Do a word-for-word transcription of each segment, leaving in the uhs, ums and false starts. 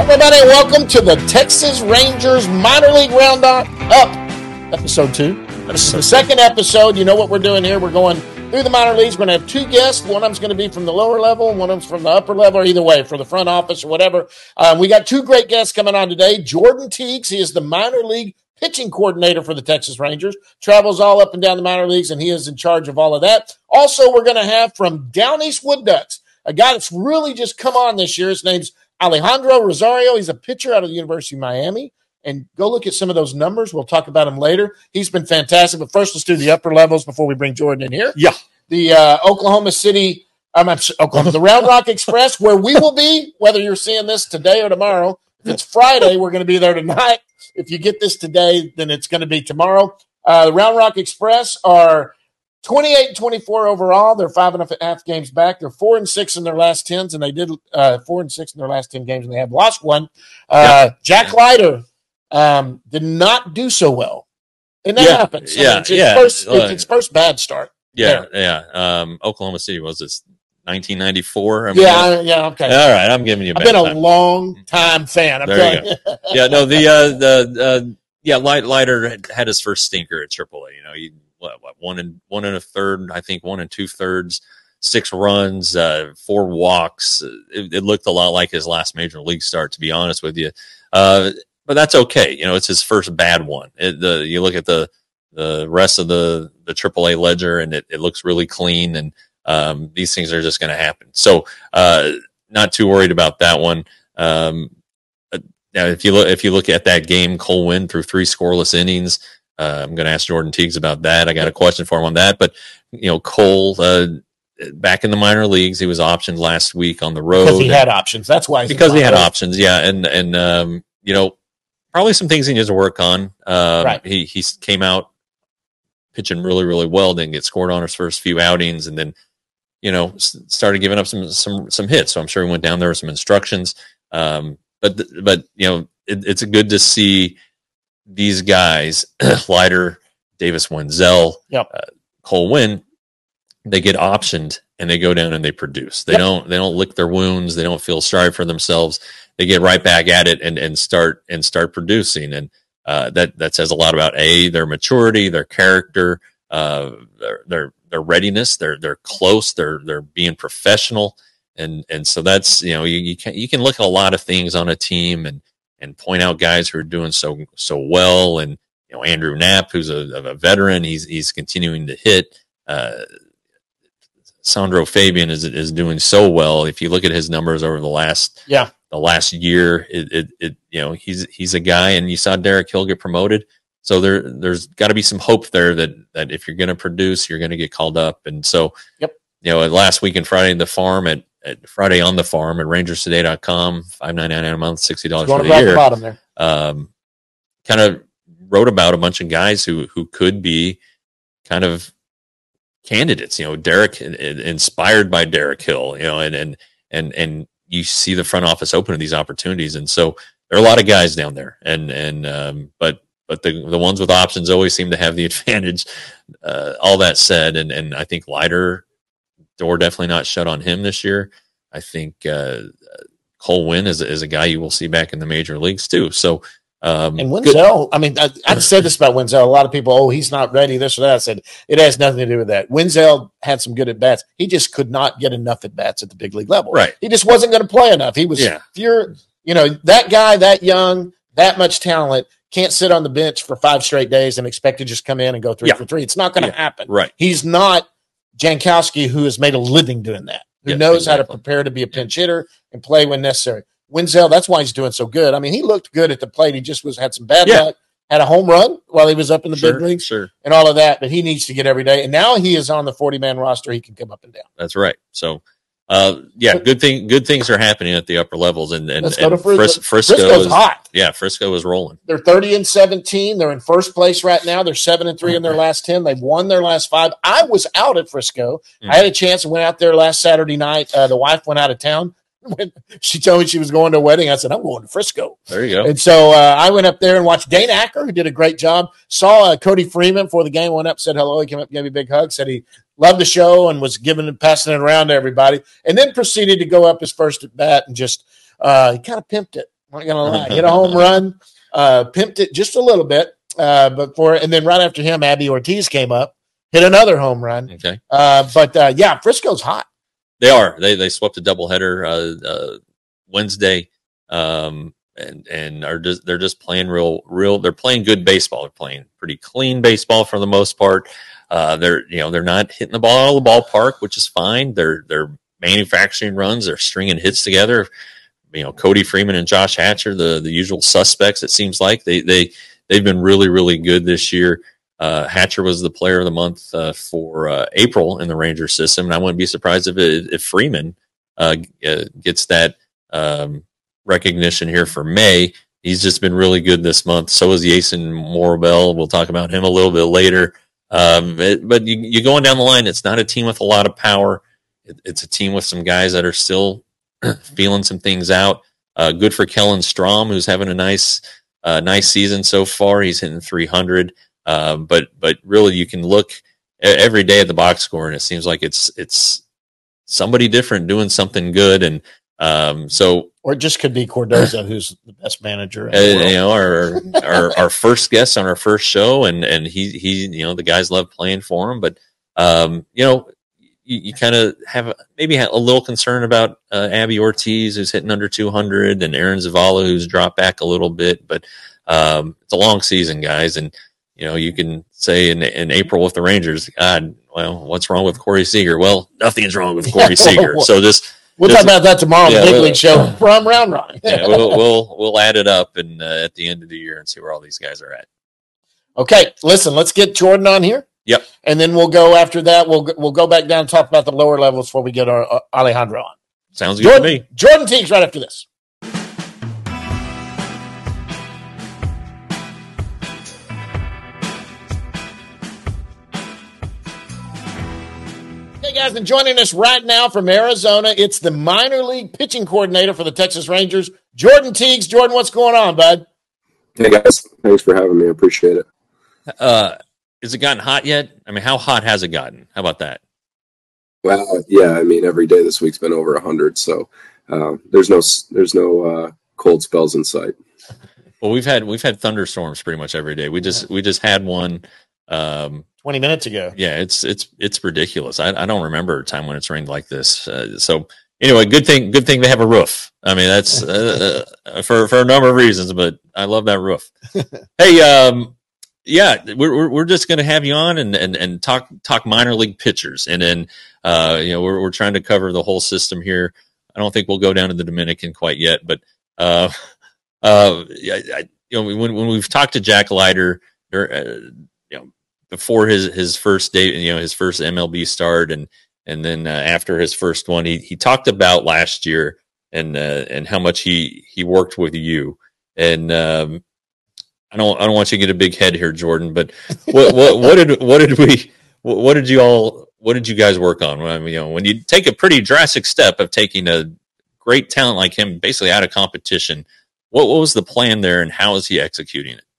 everybody, and welcome to the Texas Rangers Minor League Roundup, up episode two. This is the second episode. You know what we're doing here. We're going through the minor leagues. We're going to have two guests. One of them's going to be from the lower level, and one of them's from the upper level, or either way, for the front office or whatever. Um, we got two great guests coming on today. Jordan Teagues, he is the minor league pitching coordinator for the Texas Rangers, travels all up and down the minor leagues, and he is in charge of all of that. Also, we're going to have from Down East Wood Ducks, a guy that's really just come on this year. His name's Alejandro Rosario. He's a pitcher out of the University of Miami. And go look at some of those numbers. We'll talk about him later. He's been fantastic. But first, let's do the upper levels before we bring Jordan in here. Yeah. The uh, Oklahoma City, um, I'm sorry, Oklahoma, the Round Rock Express, where we will be, whether you're seeing this today or tomorrow. If it's Friday, we're going to be there tonight. If you get this today, then it's going to be tomorrow. Uh, the Round Rock Express are twenty-eight and twenty-four overall. They're five and a half games back. They're four and six in their last tens, and they did uh, four and six in their last ten games, and they have lost one. Uh, yep. Jack Leiter um, did not do so well, and that yeah. happens. I Yeah, mean, it's, yeah. First, it's its first bad start. Yeah, there. yeah. Um, Oklahoma City was this nineteen ninety-four. I mean, yeah, I, yeah. Okay. All right, I'm giving you. A I've bad been a time. long time fan. I'm there telling you go. yeah, no, the uh, the uh, yeah, Light, Leiter had, had his first stinker at triple A. You know, he what, what one and one and a third, I think, one and two thirds, six runs, uh, four walks. It, it looked a lot like his last major league start, to be honest with you. Uh, but that's okay. You know, it's his first bad one. It, the you look at the the rest of the the triple A ledger, and it, it looks really clean. And um, these things are just going to happen. So, uh, not too worried about that one. Um, now, if you look if you look at that game, Cole Winn threw three scoreless innings. Uh, I'm going to ask Jordan Teagues about that. I got a question for him on that. But, you know, Cole, uh, back in the minor leagues, he was optioned last week on the road. Because he had options. That's why. He's because he had options, yeah. And, and um, you know, probably some things he needs to work on. Um, right. He, he came out pitching really, really well, didn't get scored on his first few outings, and then, you know, started giving up some some some hits. So I'm sure he went down there with some instructions. Um, but, but you know, it, it's good to see these guys, Leiter, Davis Wenzel, yep. uh, Cole Winn, they get optioned and they go down and they produce. They yep. don't they don't lick their wounds. They don't feel sorry for themselves. They get right back at it and, and start and start producing. And uh, that that says a lot about a their maturity, their character, uh, their their their readiness. They're they're close. They're they're being professional. And and so that's you know you you can you can look at a lot of things on a team and. and point out guys who are doing so so well. And, you know, Andrew Knapp, who's a, a veteran, he's he's continuing to hit. Uh, Sandro Fabian is is doing so well. If you look at his numbers over the last yeah the last year, it, it, it you know he's he's a guy. And you saw Derek Hill get promoted, so there there's got to be some hope there that that if you're going to produce, you're going to get called up. And so, yep, you know, last week in Friday in the farm at. At Friday on the farm at rangers today dot com, five ninety-nine a month, sixty dollars for the year. The bottom there. Um, kind of wrote about a bunch of guys who who could be kind of candidates. You know, Derek, inspired by Derek Hill. You know, and and and and you see the front office open to these opportunities, and so there are a lot of guys down there. And and um, but but the the ones with options always seem to have the advantage. Uh, all that said, and and I think Leiter. Door definitely not shut on him this year. I think uh, Cole Winn is, is a guy you will see back in the major leagues too. So, um, and Wenzel, I mean, I, I've said this about Wenzel. A lot of people, oh, he's not ready, this or that. I said it has nothing to do with that. Wenzel had some good at bats. He just could not get enough at bats at the big league level. Right. He just wasn't going to play enough. He was, yeah. You're, you know, that guy, that young, that much talent can't sit on the bench for five straight days and expect to just come in and go three yeah. for three. It's not going to yeah. happen. Right. He's not Jankowski, who has made a living doing that, who yeah, knows exactly. how to prepare to be a pinch hitter and play when necessary. Wenzel, that's why he's doing so good. I mean, he looked good at the plate. He just was had some bad yeah. luck, had a home run while he was up in the sure, big leagues sure. and all of that, but he needs to get every day. And now he is on the forty-man roster. He can come up and down. That's right. So, uh, yeah, good thing. Good things are happening at the upper levels, and and, Let's and go to Frisco. Fris- Frisco Frisco's is hot. Yeah, Frisco is rolling. They're thirty and seventeen. They're in first place right now. They're seven and three in their last ten. They've won their last five. I was out at Frisco. Mm-hmm. I had a chance and went out there last Saturday night. Uh, the wife went out of town. When she told me she was going to a wedding, I said, I'm going to Frisco. There you go. And so uh, I went up there and watched Dane Acker, who did a great job. Saw uh, Cody Freeman before the game, went up, said hello. He came up, gave me a big hug, said he loved the show and was giving and passing it around to everybody. And then proceeded to go up his first at bat and just uh, he kind of pimped it. I'm not gonna lie, hit a home run, uh, pimped it just a little bit, uh, but for and then right after him, Abby Ortiz came up, hit another home run. Okay, uh, but uh, yeah, Frisco's hot. they are. They they swept a doubleheader uh, uh, Wednesday, um, and and are just they're just playing real real. They're playing good baseball. They're playing pretty clean baseball for the most part. Uh, they're you know they're not hitting the ball out of the ballpark, which is fine. They're they're manufacturing runs. They're stringing hits together. You know, Cody Freeman and Josh Hatcher, the the usual suspects. It seems like they they they've been really really good this year. Uh, Hatcher was the player of the month uh, for uh, April in the Rangers system, and I wouldn't be surprised if it, if Freeman uh, uh, gets that um, recognition here for May. He's just been really good this month. So is Jason Morabel. We'll talk about him a little bit later. Um, it, but you, you're going down the line. It's not a team with a lot of power. It, it's a team with some guys that are still feeling some things out. Uh, good for Kellen Strom, who's having a nice, uh, nice season so far. He's hitting three hundred. Um, but but really, you can look every day at the box score, and it seems like it's it's somebody different doing something good. And um, so, or it just could be Cordoza, who's the best manager. In uh, the world. You know, our, our our first guest on our first show, and and he he you know the guys love playing for him, but um, you know. You, you kind of have maybe a little concern about uh, Abby Ortiz, who's hitting under two hundred, and Aaron Zavala, who's dropped back a little bit. But um, it's a long season, guys, and you know you can say in, in April with the Rangers, God, well, what's wrong with Corey Seager? Well, nothing's wrong with Corey Seager. So just we'll just, talk about that tomorrow on yeah, the Big we'll, League Show from Round Rock. yeah, we'll, we'll we'll add it up and uh, at the end of the year and see where all these guys are at. Okay, listen, let's get Jordan on here. Yep. And then we'll go after that. We'll we'll go back down and talk about the lower levels before we get our uh, Alejandro on. Sounds good Jordan, to me. Jordan Teagues right after this. Hey guys, and joining us right now from Arizona, it's the minor league pitching coordinator for the Texas Rangers, Jordan Teagues. Jordan, what's going on, bud? Hey guys, thanks for having me. I appreciate it. Uh, Has it gotten hot yet? I mean, how hot has it gotten? How about that? Well, yeah, I mean, every day this week's been over one hundred, so uh, there's no there's no uh, cold spells in sight. Well, we've had we've had thunderstorms pretty much every day. We just we just had one um, twenty minutes ago. Yeah, it's it's it's ridiculous. I, I don't remember a time when it's rained like this. Uh, so anyway, good thing good thing they have a roof. I mean, that's uh, uh, for for a number of reasons, but I love that roof. Hey, um. Yeah, we're we're just going to have you on and, and, and talk talk minor league pitchers, and then uh, you know we're we're trying to cover the whole system here. I don't think we'll go down to the Dominican quite yet, but uh, uh, I, I, you know when when we've talked to Jack Leiter, uh, you know before his his first day, you know his first M L B start, and and then uh, after his first one, he he talked about last year and uh, and how much he he worked with you and. Um, I don't. I don't want you to get a big head here, Jordan. But what, what, what did, what did we, what did you all, what did you guys work on? I mean, you know, when you take a pretty drastic step of taking a great talent like him, basically out of competition, what, what was the plan there, and how is he executing it?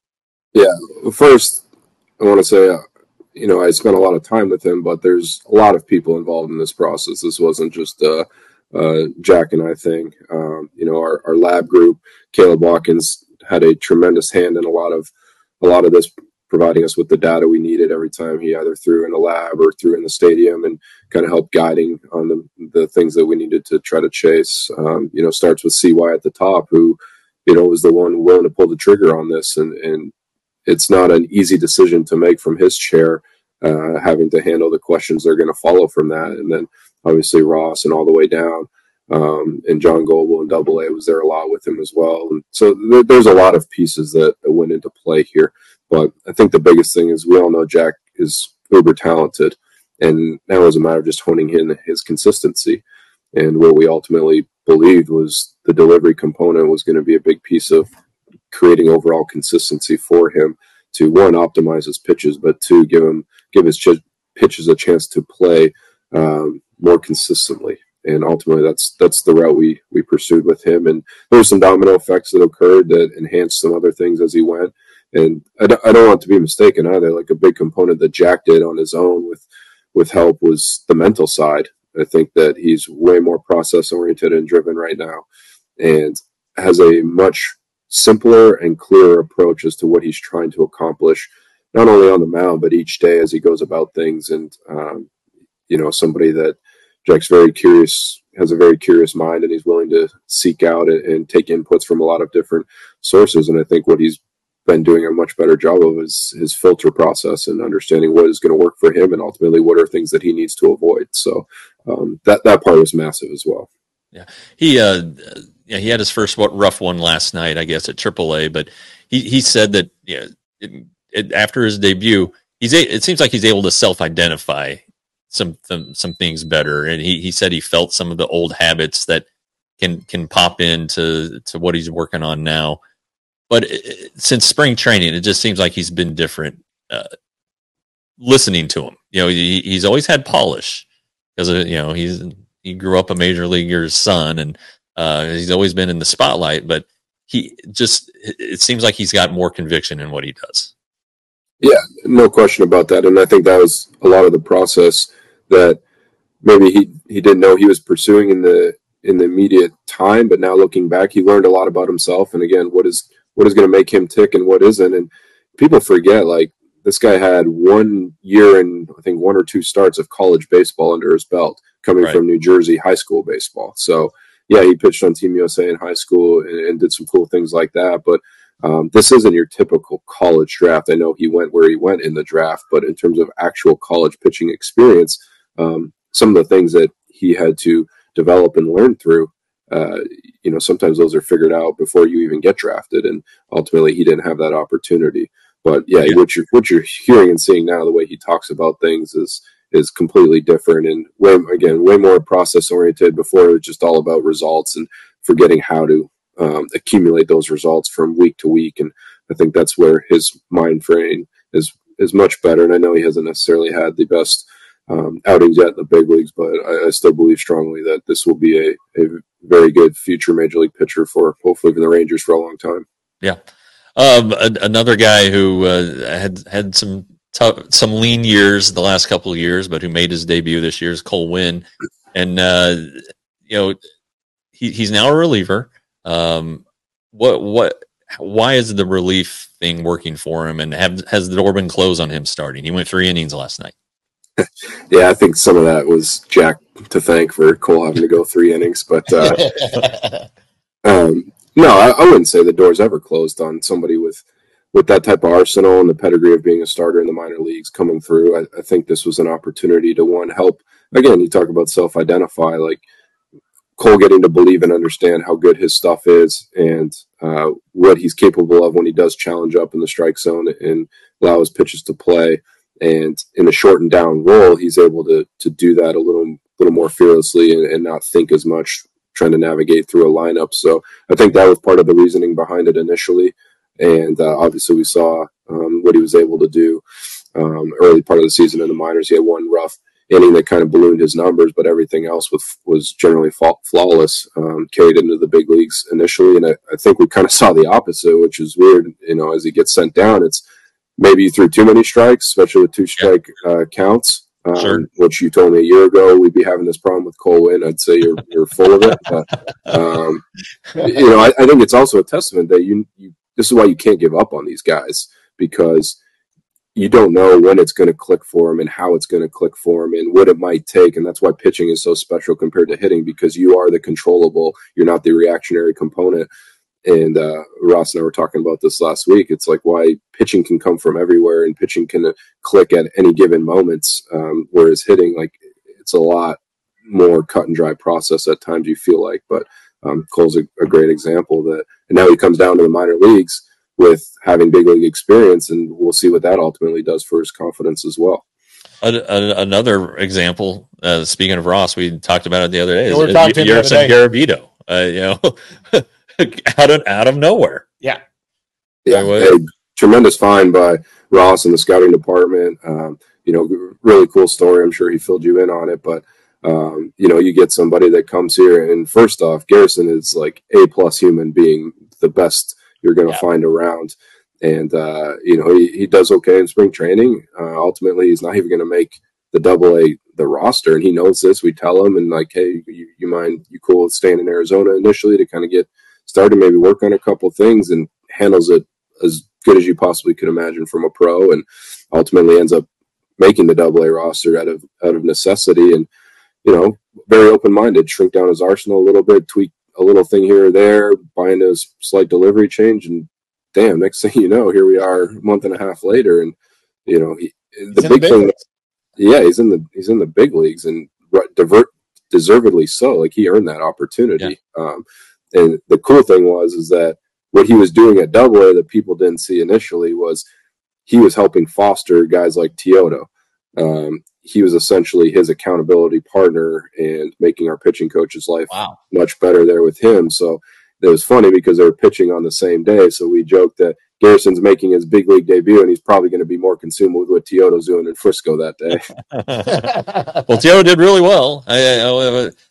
Yeah, first, I want to say, uh, you know, I spent a lot of time with him, but there's a lot of people involved in this process. This wasn't just uh, uh, Jack and I thing. Um, you know, our, our lab group, Caleb Watkins, had a tremendous hand in a lot of a lot of this, providing us with the data we needed every time he either threw in the lab or threw in the stadium, and kind of helped guiding on the the things that we needed to try to chase. Um, you know, starts with C Y at the top, who, you know, was the one willing to pull the trigger on this, and and it's not an easy decision to make from his chair, uh, having to handle the questions that are going to follow from that, and then obviously Ross and all the way down. Um, and John Goble in Double A was there a lot with him as well. And so th- there's a lot of pieces that, that went into play here. But I think the biggest thing is we all know Jack is uber talented. And now it's a matter of just honing in his consistency. And what we ultimately believed was the delivery component was going to be a big piece of creating overall consistency for him to, one, optimize his pitches, but two, give him give his ch- pitches a chance to play um, more consistently. And ultimately, that's that's the route we we pursued with him. And there were some domino effects that occurred that enhanced some other things as he went. And I don't, I don't want to be mistaken either. Like, a big component that Jack did on his own with with help was the mental side. I think that he's way more process oriented and driven right now. And has a much simpler and clearer approach as to what he's trying to accomplish, not only on the mound, but each day as he goes about things. And, um, you know, somebody that Jack's very curious, has a very curious mind, and he's willing to seek out and, and take inputs from a lot of different sources. And I think what he's been doing a much better job of is his filter process and understanding what is going to work for him and ultimately what are things that he needs to avoid. So um, that, that part was massive as well. Yeah. He, uh, yeah, he had his first what, rough one last night, I guess, at triple A, but he, he said that, yeah, it, it, after his debut, he's, a, it seems like he's able to self-identify some, some, some things better. And he, he said he felt some of the old habits that can, can pop into, to what he's working on now. But it, since spring training, it just seems like he's been different. Uh, listening to him, you know, he, he's always had polish because you know he's he grew up a major leaguer's son, and uh, he's always been in the spotlight. But he just it seems like he's got more conviction in what he does. Yeah, no question about that. And I think that was a lot of the process that maybe he he didn't know he was pursuing in the in the immediate time, but now looking back, he learned a lot about himself. And again, what is what is going to make him tick and what isn't. And people forget, like, this guy had one year and I think one or two starts of college baseball under his belt, coming right. from New Jersey high school baseball. So yeah, he pitched on Team U S A in high school and, and did some cool things like that. But um, this isn't your typical college draft. I know he went where he went in the draft, but in terms of actual college pitching experience, um, some of the things that he had to develop and learn through, uh, you know, sometimes those are figured out before you even get drafted. And ultimately he didn't have that opportunity. But yeah, yeah, what you're what you're hearing and seeing now, the way he talks about things is is completely different, and way again way more process oriented. Before it was just all about results and forgetting how to um, accumulate those results from week to week. And I think that's where his mind frame is is much better. And I know he hasn't necessarily had the best um, outings yet in the big leagues, but I, I still believe strongly that this will be a, a very good future major league pitcher for hopefully for the Rangers for a long time. Yeah. Um, a, another guy who uh, had had some tough, some lean years the last couple of years, but who made his debut this year is Cole Winn, and uh, you know he, he's now a reliever. Um, what what why is the relief thing working for him, and have, has the door been closed on him starting? He went three innings last night. Yeah, I think some of that was Jack to thank for Cole having to go three innings, but. Uh, um, No, I, I wouldn't say the door's ever closed on somebody with, with that type of arsenal and the pedigree of being a starter in the minor leagues coming through. I, I think this was an opportunity to, one, help. Again, you talk about self-identify, like Cole getting to believe and understand how good his stuff is and uh, what he's capable of when he does challenge up in the strike zone and allow his pitches to play. And in a shortened down role, he's able to to do that a little, little more fearlessly and, and not think as much trying to navigate through a lineup. So I think that was part of the reasoning behind it initially. And uh, obviously we saw um, what he was able to do um, early part of the season in the minors. He had one rough inning that kind of ballooned his numbers, but everything else was, was generally flawless, um, carried into the big leagues initially. And I, I think we kind of saw the opposite, which is weird. You know, as he gets sent down, it's maybe you threw too many strikes, especially with two strike uh, counts. Um, sure. Which you told me a year ago we'd be having this problem with Cole Winn. I'd say you're you're full of it. But, um, you know, I, I think it's also a testament that you, you. This is why you can't give up on these guys, because you don't know when it's going to click for them and how it's going to click for them and what it might take. And that's why pitching is so special compared to hitting, because you are the controllable. You're not the reactionary component. And uh, Ross and I were talking about this last week. It's like why pitching can come from everywhere and pitching can click at any given moments, um, whereas hitting, like, it's a lot more cut and dry process at times, you feel like. But um, Cole's a, a great example of that. And now he comes down to the minor leagues with having big league experience, and we'll see what that ultimately does for his confidence as well. A, a, another example, uh, speaking of Ross, we talked about it the other day. Yeah, we were talking is Yerson Garavito, uh, you know. Out of out of nowhere, yeah, yeah. A tremendous find by Ross and the scouting department. Um, you know, really cool story. I'm sure he filled you in on it, but um, you know, you get somebody that comes here, and first off, Garrison is like a plus human being, the best you're going to yeah. find around, and uh, you know, he, he does okay in spring training. Uh, ultimately, he's not even going to make the double A the roster, and he knows this. We tell him, and like, hey, you, you mind you cool with staying in Arizona initially to kind of get started to maybe work on a couple things and handles it as good as you possibly could imagine from a pro, and ultimately ends up making the double A roster out of out of necessity. And you know, very open-minded, shrink down his arsenal a little bit, tweak a little thing here or there, buying a slight delivery change, and damn, next thing you know, here we are a month and a half later, and you know, he, the big, big thing, leagues. yeah, he's in the he's in the big leagues, and divert deservedly so. Like, he earned that opportunity. Yeah. Um, and the cool thing was is that what he was doing at Double A that people didn't see initially was he was helping foster guys like Teodo. Um, he was essentially his accountability partner and making our pitching coach's life wow. much better there with him. So it was funny because they were pitching on the same day. So we joked that Garrison's making his big league debut, and he's probably going to be more consumed with what Teodo's doing in Frisco that day. Well, Teodo did really well. I, I, I,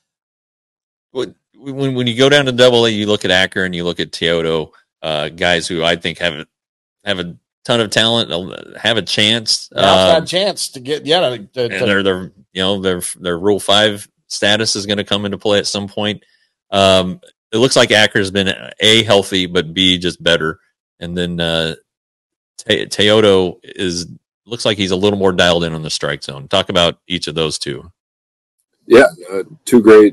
when when you go down to Double A, you look at Acker and you look at Teodo, uh, guys who I think have have a ton of talent, have a chance, an outside um, chance to get yeah. To, to, and their their you know their their Rule Five status is going to come into play at some point. Um, it looks like Acker's been A, healthy, but B, just better. And then uh, Te- Teodo is looks like he's a little more dialed in on the strike zone. Talk about each of those two. Yeah, uh, two great.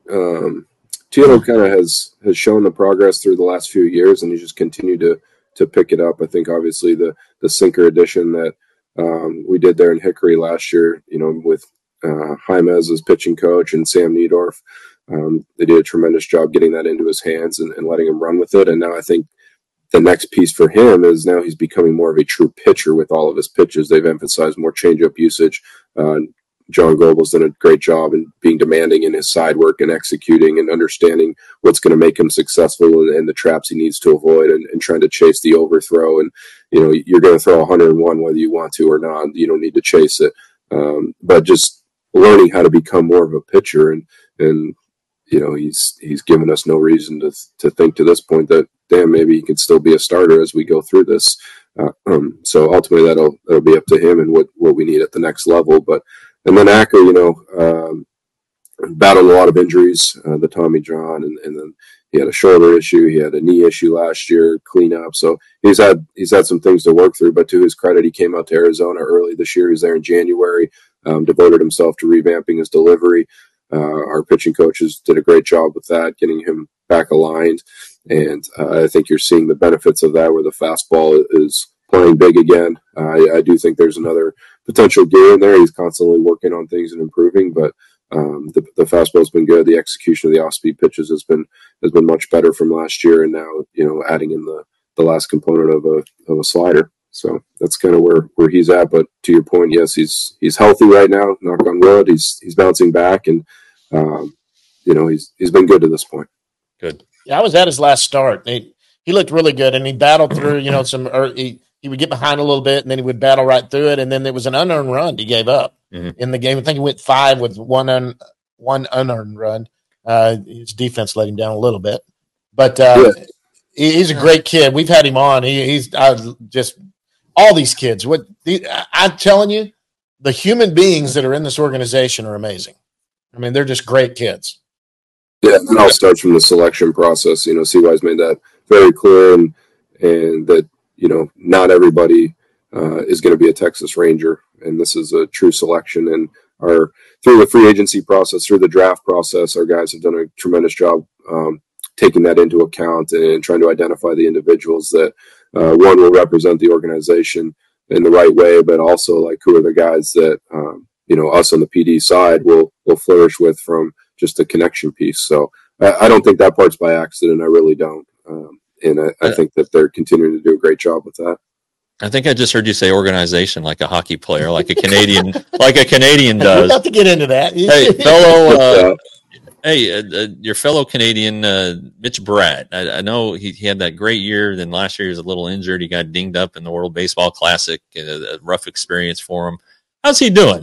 Um, Teodo kind of has has shown the progress through the last few years, and he's just continued to to pick it up. I think obviously the the sinker edition that um, we did there in Hickory last year, you know, with uh, Jaimez as pitching coach and Sam Niedorf, um, they did a tremendous job getting that into his hands and, and letting him run with it. And now I think the next piece for him is now he's becoming more of a true pitcher with all of his pitches. They've emphasized more changeup usage. Uh, John Goebel's done a great job in being demanding in his side work and executing and understanding what's going to make him successful and, and the traps he needs to avoid, and, and trying to chase the overthrow. And, you know, you're going to throw one oh one whether you want to or not. You don't need to chase it. Um, but just learning how to become more of a pitcher. And, and, you know, he's, he's given us no reason to, to think to this point that, damn, maybe he could still be a starter as we go through this. Uh, um, so ultimately that'll, that'll be up to him and what, what we need at the next level. But, and then Acker, you know, um, battled a lot of injuries, uh, the Tommy John, and, and then he had a shoulder issue. He had a knee issue last year, cleanup. So he's had, he's had some things to work through, but to his credit, he came out to Arizona early this year. He was there in January, um, devoted himself to revamping his delivery. Uh, our pitching coaches did a great job with that, getting him back aligned. And uh, I think you're seeing the benefits of that, where the fastball is playing big again. Uh, I, I do think there's another potential gear in there. He's constantly working on things and improving, but um, the, the fastball's been good. The execution of the off-speed pitches has been has been much better from last year, and now, you know, adding in the, the last component of a of a slider. So that's kind of where, where he's at. But to your point, yes, he's he's healthy right now. Knock on wood. He's he's bouncing back, and um, you know, he's he's been good to this point. Good. Yeah, I was at his last start. He he looked really good, and he battled through. You know, some or he he would get behind a little bit, and then he would battle right through it. And then there was an unearned run he gave up mm-hmm. in the game. I think he went five with one un, one unearned run. Uh, his defense let him down a little bit, but uh, yeah. he, he's a great kid. We've had him on. He, he's I just all these kids. What the, I'm telling you, the human beings that are in this organization are amazing. I mean, they're just great kids. Yeah, and I'll start from the selection process. You know, C Y's made that very clear, and and that, you know, not everybody uh, is going to be a Texas Ranger, and this is a true selection. And our through the free agency process, through the draft process, our guys have done a tremendous job um, taking that into account and trying to identify the individuals that uh, one will represent the organization in the right way, but also like who are the guys that um, you know, us on the P D side will will flourish with from just a connection piece. So I, I don't think that part's by accident. I really don't. Um, and I, I think that they're continuing to do a great job with that. I think I just heard you say organization, like a hockey player, like a Canadian, like a Canadian does. We'll have to get into that. Hey, fellow, uh, hey, uh, uh, your fellow Canadian, uh, Mitch Bratt. I, I know he, he had that great year. Then last year he was a little injured. He got dinged up in the World Baseball Classic. A, a rough experience for him. How's he doing?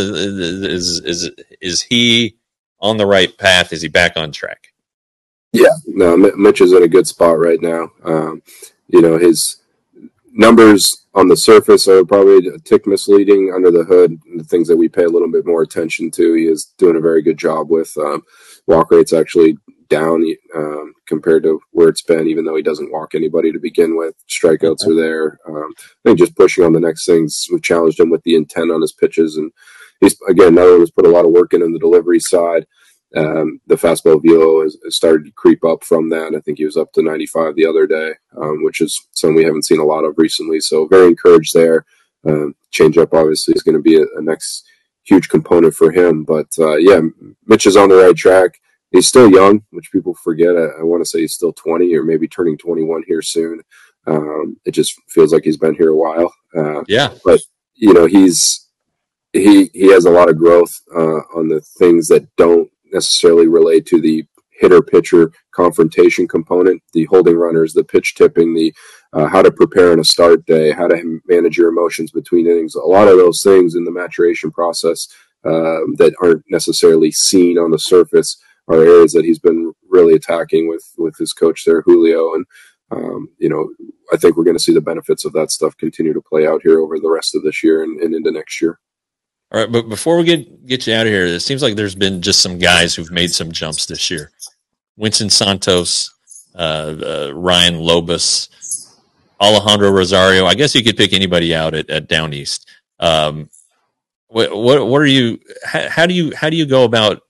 Is is is he on the right path? Is he back on track? Yeah, no, Mitch is in a good spot right now. Um, you know, his numbers on the surface are probably a tick misleading. Under the hood, the things that we pay a little bit more attention to, he is doing a very good job with. Um, walk rate's actually down um, compared to where it's been, even though he doesn't walk anybody to begin with. Strikeouts are there. Um, I think just pushing on the next things. We challenged him with the intent on his pitches. And he's, again, another one has put a lot of work in on the delivery side. Um, the fastball velo has, has started to creep up from that. I think he was up to ninety-five the other day, um, which is something we haven't seen a lot of recently. So very encouraged there. Um, changeup obviously is going to be a, a next huge component for him. But uh, yeah, Mitch is on the right track. He's still young, which people forget. I, I want to say he's still twenty or maybe turning twenty-one here soon. Um, it just feels like he's been here a while. Uh, yeah. But, you know, he's he he has a lot of growth uh, on the things that don't necessarily relate to the hitter-pitcher confrontation component, the holding runners, the pitch tipping, the uh, how to prepare on a start day, how to manage your emotions between innings. A lot of those things in the maturation process uh, that aren't necessarily seen on the surface are areas that he's been really attacking with with his coach there, Julio. And, um, you know, I think we're going to see the benefits of that stuff continue to play out here over the rest of this year and, and into next year. All right, but before we get get you out of here, it seems like there's been just some guys who've made some jumps this year. Winston Santos, uh, uh, Ryan Lobus, Alejandro Rosario. I guess you could pick anybody out at, at Down East. Um, what, what what are you? How, how do you how do you go about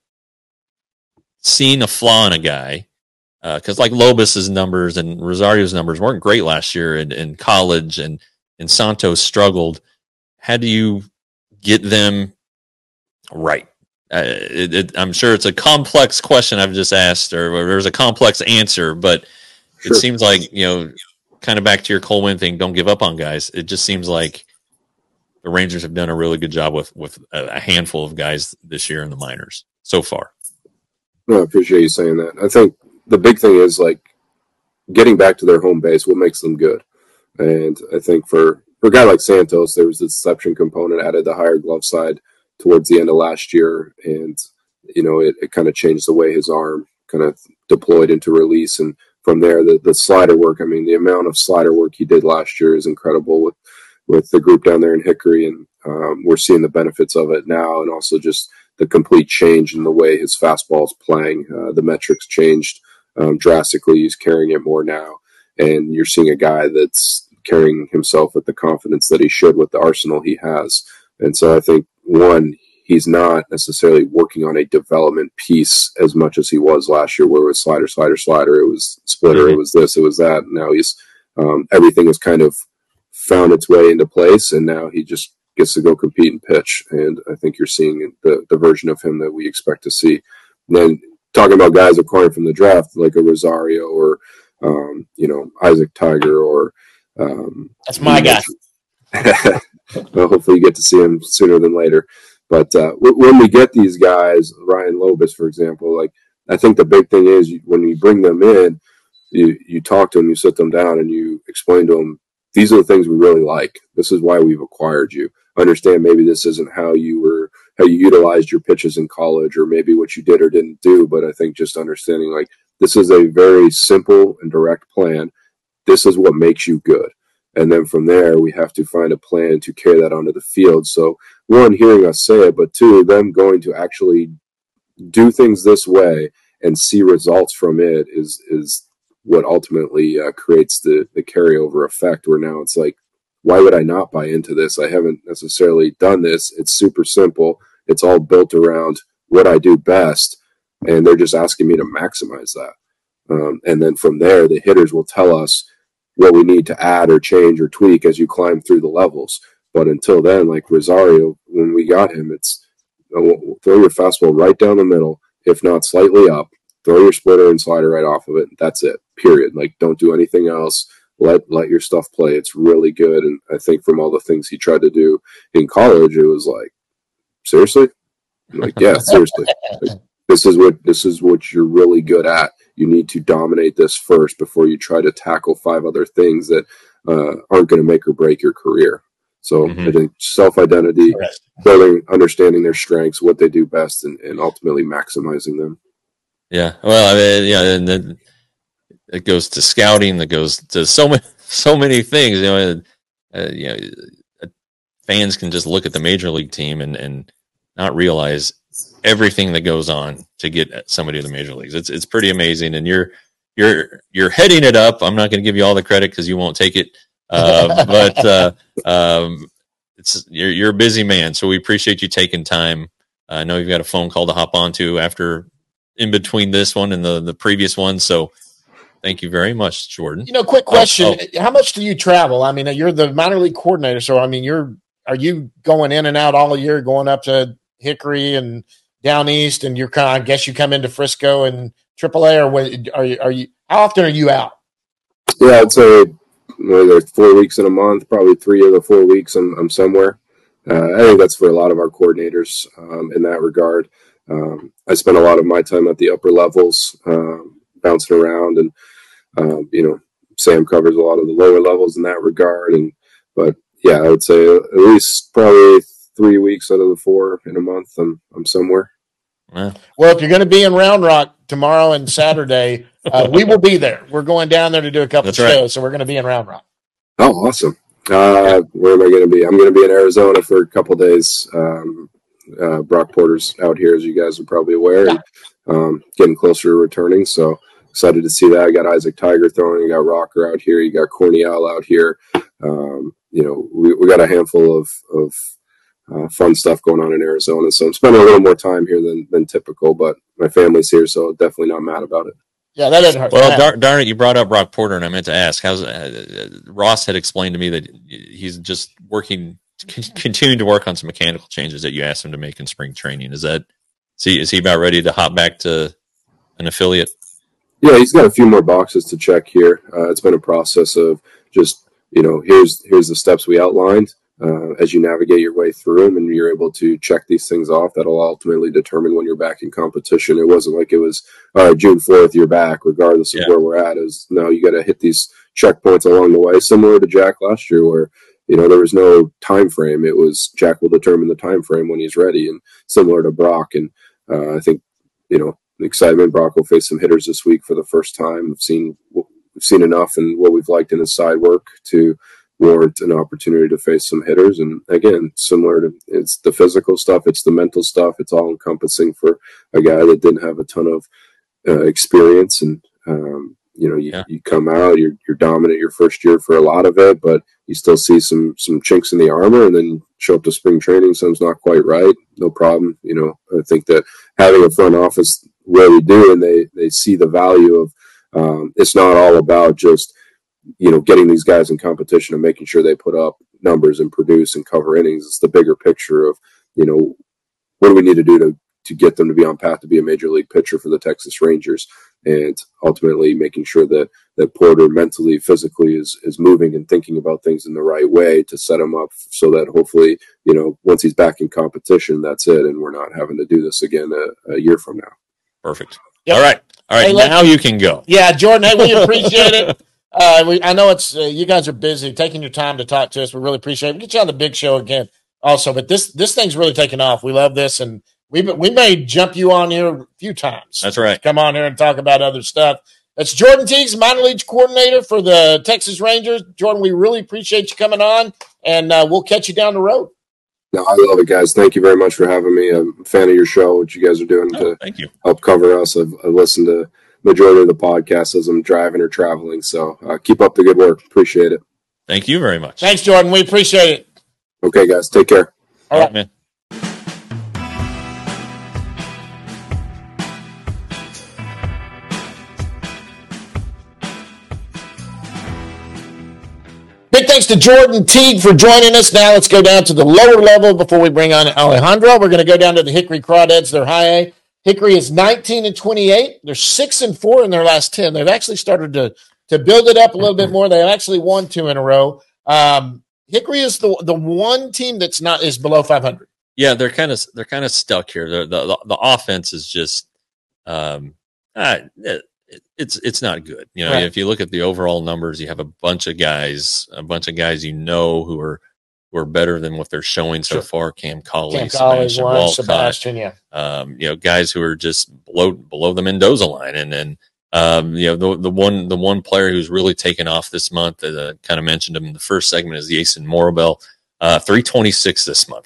seeing a flaw in a guy? Because uh, like Lobus's numbers and Rosario's numbers weren't great last year in, in college, and and Santos struggled. How do you get them right? Uh, it, it, I'm sure it's a complex question I've just asked, or, or there's a complex answer, but sure. It seems like, you know, kind of back to your Cole Winn thing, don't give up on guys. It just seems like the Rangers have done a really good job with, with a handful of guys this year in the minors so far. No, I appreciate you saying that. I think the big thing is like getting back to their home base, what makes them good. And I think for, for a guy like Santos, there was the deception component, added the higher glove side towards the end of last year. And, you know, it, it kind of changed the way his arm kind of deployed into release. And from there, the, the slider work, I mean, the amount of slider work he did last year is incredible with, with the group down there in Hickory. And um, we're seeing the benefits of it now. And also just the complete change in the way his fastball is playing. Uh, the metrics changed um, drastically. He's carrying it more now. And you're seeing a guy that's carrying himself with the confidence that he should with the arsenal he has. And so I think, one, he's not necessarily working on a development piece as much as he was last year, where it was slider, slider, slider. It was splitter. Mm-hmm. It was this, it was that. Now he's um, everything has kind of found its way into place, and now he just gets to go compete and pitch. And I think you're seeing the, the version of him that we expect to see. And then talking about guys acquired from the draft, like a Rosario or, um, you know, Isaac Tiger or um, that's my guy. Well, hopefully you get to see him sooner than later. But uh, w- when we get these guys, Ryan Lobus, for example, like I think the big thing is you, when you bring them in, you, you talk to them, you sit them down, and you explain to them, these are the things we really like. This is why we've acquired you. Understand maybe this isn't how you were, how you utilized your pitches in college, or maybe what you did or didn't do. But I think just understanding like this is a very simple and direct plan. This is what makes you good. And then from there, we have to find a plan to carry that onto the field. So one, hearing us say it, but two, them going to actually do things this way and see results from it is is what ultimately uh, creates the, the carryover effect, where now it's like, why would I not buy into this? I haven't necessarily done this. It's super simple. It's all built around what I do best, and they're just asking me to maximize that. Um, and then from there, the hitters will tell us what we need to add or change or tweak as you climb through the levels. But until then, like Rosario, when we got him, it's you know, throw your fastball right down the middle, if not slightly up, throw your splitter and slider right off of it. That's it, period. Like, don't do anything else. Let let your stuff play. It's really good. And I think from all the things he tried to do in college, it was like, seriously? I'm like, yeah, seriously. Like, this is what this is what you're really good at. You need to dominate this first before you try to tackle five other things that uh, aren't going to make or break your career. So mm-hmm. I think self-identity, building, understanding their strengths, what they do best, and, and ultimately maximizing them. Yeah. Well, I mean, yeah, and then it goes to scouting. That goes to so many, so many things. You know, uh, you know, fans can just look at the major league team and, and not realize everything that goes on to get somebody to the major leagues. It's it's pretty amazing, and you're you're you're heading it up. I'm not going to give you all the credit because you won't take it, uh, but uh, um, it's you're you're a busy man, so we appreciate you taking time. Uh, I know you've got a phone call to hop onto after in between this one and the the previous one, so thank you very much, Jordan. You know, quick question: oh, oh. How much do you travel? I mean, you're the minor league coordinator, so I mean, you're are you going in and out all year, going up to Hickory and down east, and you're kind of, I guess you come into Frisco and triple A, or what, are you, are you, how often are you out? Yeah, I'd say whether four weeks in a month, probably three of the four weeks I'm, I'm somewhere. Uh, I think that's for a lot of our coordinators um, in that regard. Um, I spend a lot of my time at the upper levels, um, bouncing around, and, um, you know, Sam covers a lot of the lower levels in that regard. And, but yeah, I would say at least probably three weeks out of the four in a month, I'm I'm somewhere. Well, if you're going to be in Round Rock tomorrow and Saturday, uh, we will be there. We're going down there to do a couple That's of shows, right. so we're going to be in Round Rock. Oh, awesome. Uh, where am I going to be? I'm going to be in Arizona for a couple of days. Um, uh, Brock Porter's out here, as you guys are probably aware, Yeah. and, um, getting closer to returning. So excited to see that. I got Isaac Tiger throwing. You got Rocker out here. You got Corniel out here. Um, you know, we, we got a handful of, of uh, fun stuff going on in Arizona. So I'm spending a little more time here than, than typical, but my family's here, so definitely not mad about it. Yeah, that doesn't hurt. Well, dar- darn it, you brought up Brock Porter, and I meant to ask. How's uh, Ross had explained to me that he's just working, c- continuing to work on some mechanical changes that you asked him to make in spring training. Is that is he, is he about ready to hop back to an affiliate? Yeah, he's got a few more boxes to check here. Uh, it's been a process of just, you know, here's here's the steps we outlined. Uh, as you navigate your way through them and you're able to check these things off, that'll ultimately determine when you're back in competition. It wasn't like it was, all right, June fourth, you're back, regardless of Yeah. where we're at. Is no, you got to hit these checkpoints along the way, similar to Jack last year, where, you know, there was no time frame. It was Jack will determine the time frame when he's ready, and similar to Brock. And uh, I think, you know, the excitement, Brock will face some hitters this week for the first time. We've seen, we've seen enough in what we've liked in his side work to warrant an opportunity to face some hitters. And again, similar to, it's the physical stuff, it's the mental stuff, it's all encompassing for a guy that didn't have a ton of uh, experience. And um, you know, you, Yeah. you come out, you're you're dominant your first year for a lot of it, but you still see some some chinks in the armor, and then show up to spring training, something's not quite right, no problem. You know, I think that having a front office where we do, and they they see the value of um, it's not all about just, you know, getting these guys in competition and making sure they put up numbers and produce and cover innings. It's the bigger picture of, you know, what do we need to do to, to get them to be on path to be a major league pitcher for the Texas Rangers, and ultimately making sure that, that Porter mentally, physically is, is moving and thinking about things in the right way to set him up so that hopefully, you know, once he's back in competition, that's it. And we're not having to do this again a, a year from now. Perfect. Yep. All right. All right. Hey, let- now you can go. Yeah, Jordan, hey, we appreciate it. Uh, we, I know it's uh, you guys are busy taking your time to talk to us. We really appreciate it. We get you on the big show again also, but this this thing's really taking off. We love this, and we we may jump you on here a few times. That's right. Come on here and talk about other stuff. That's Jordan Teagues, minor league coordinator for the Texas Rangers. Jordan, we really appreciate you coming on, and uh, we'll catch you down the road. No, I love it, guys. Thank you very much for having me. I'm a fan of your show, what you guys are doing Oh, to thank you. help cover us. I've, I've listened to majority of the podcast as I'm driving or traveling. So uh, keep up the good work. Appreciate it. Thank you very much. Thanks, Jordan. We appreciate it. Okay, guys. Take care. All All right. right, man. Big thanks to Jordan Teague for joining us. Now let's go down to the lower level before we bring on Alejandro. We're going to go down to the Hickory Crawdads. They're high A. Hickory is nineteen and twenty-eight. They're six and four in their last ten. They've actually started to to build it up a little bit more. They've actually won two in a row. Um, Hickory is the the one team that's not is below five hundred. Yeah, they're kind of they're kind of stuck here. The the the offense is just um uh, it, it's it's not good. You know, Right. if you look at the overall numbers, you have a bunch of guys, a bunch of guys you know who are who are better than what they're showing so Sure. far. Cam Colley, Cam Collins, Sebastian one, Walcott, Sebastian, yeah. um, you know, guys who are just below below the Mendoza line, and then um, you know the the one the one player who's really taken off this month, uh, kind of mentioned him in the first segment, is Jason Morabel, uh, three twenty six this month.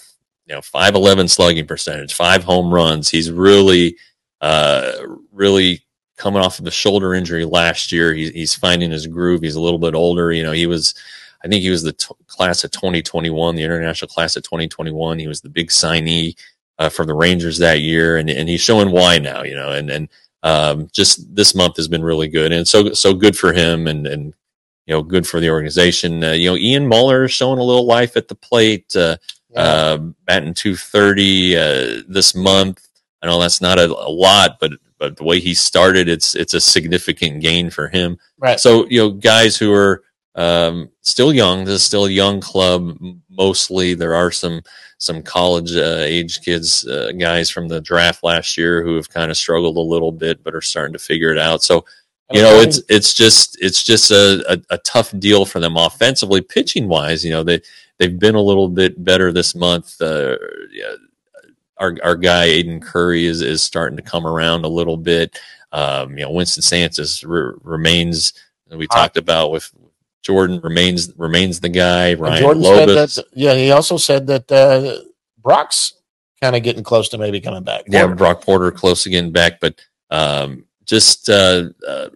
you know, five eleven slugging percentage, five home runs. He's really, uh, really coming off of the shoulder injury last year. He, he's finding his groove. He's a little bit older. You know, he was, I think he was the t- class of twenty twenty-one, the international class of twenty twenty-one. He was the big signee uh, for the Rangers that year, and and he's showing why now. You know, and and um, just this month has been really good, and so so good for him, and and you know, good for the organization. Uh, you know, Ian Muller is showing a little life at the plate, uh, yeah. uh, batting two thirty uh, this month. I know that's not a, a lot, but but the way he started, it's it's a significant gain for him. Right. So, you know, guys who are um, still young, this is still a young club. Mostly, there are some some college uh, age kids, uh, guys from the draft last year who have kind of struggled a little bit, but are starting to figure it out. So, you know, it's it's just it's just a, a, a tough deal for them offensively, pitching wise. You know, they they've been a little bit better this month. Uh, yeah, our our guy Aiden Curry is is starting to come around a little bit. Um, you know, Winston Sanchez re- remains. We talked about with Jordan remains remains the guy. Ryan Jordan Lobos. said that, yeah, he also said that uh, Brock's kind of getting close to maybe coming back. Yeah, Brock Porter close to getting back, but um, just uh, uh,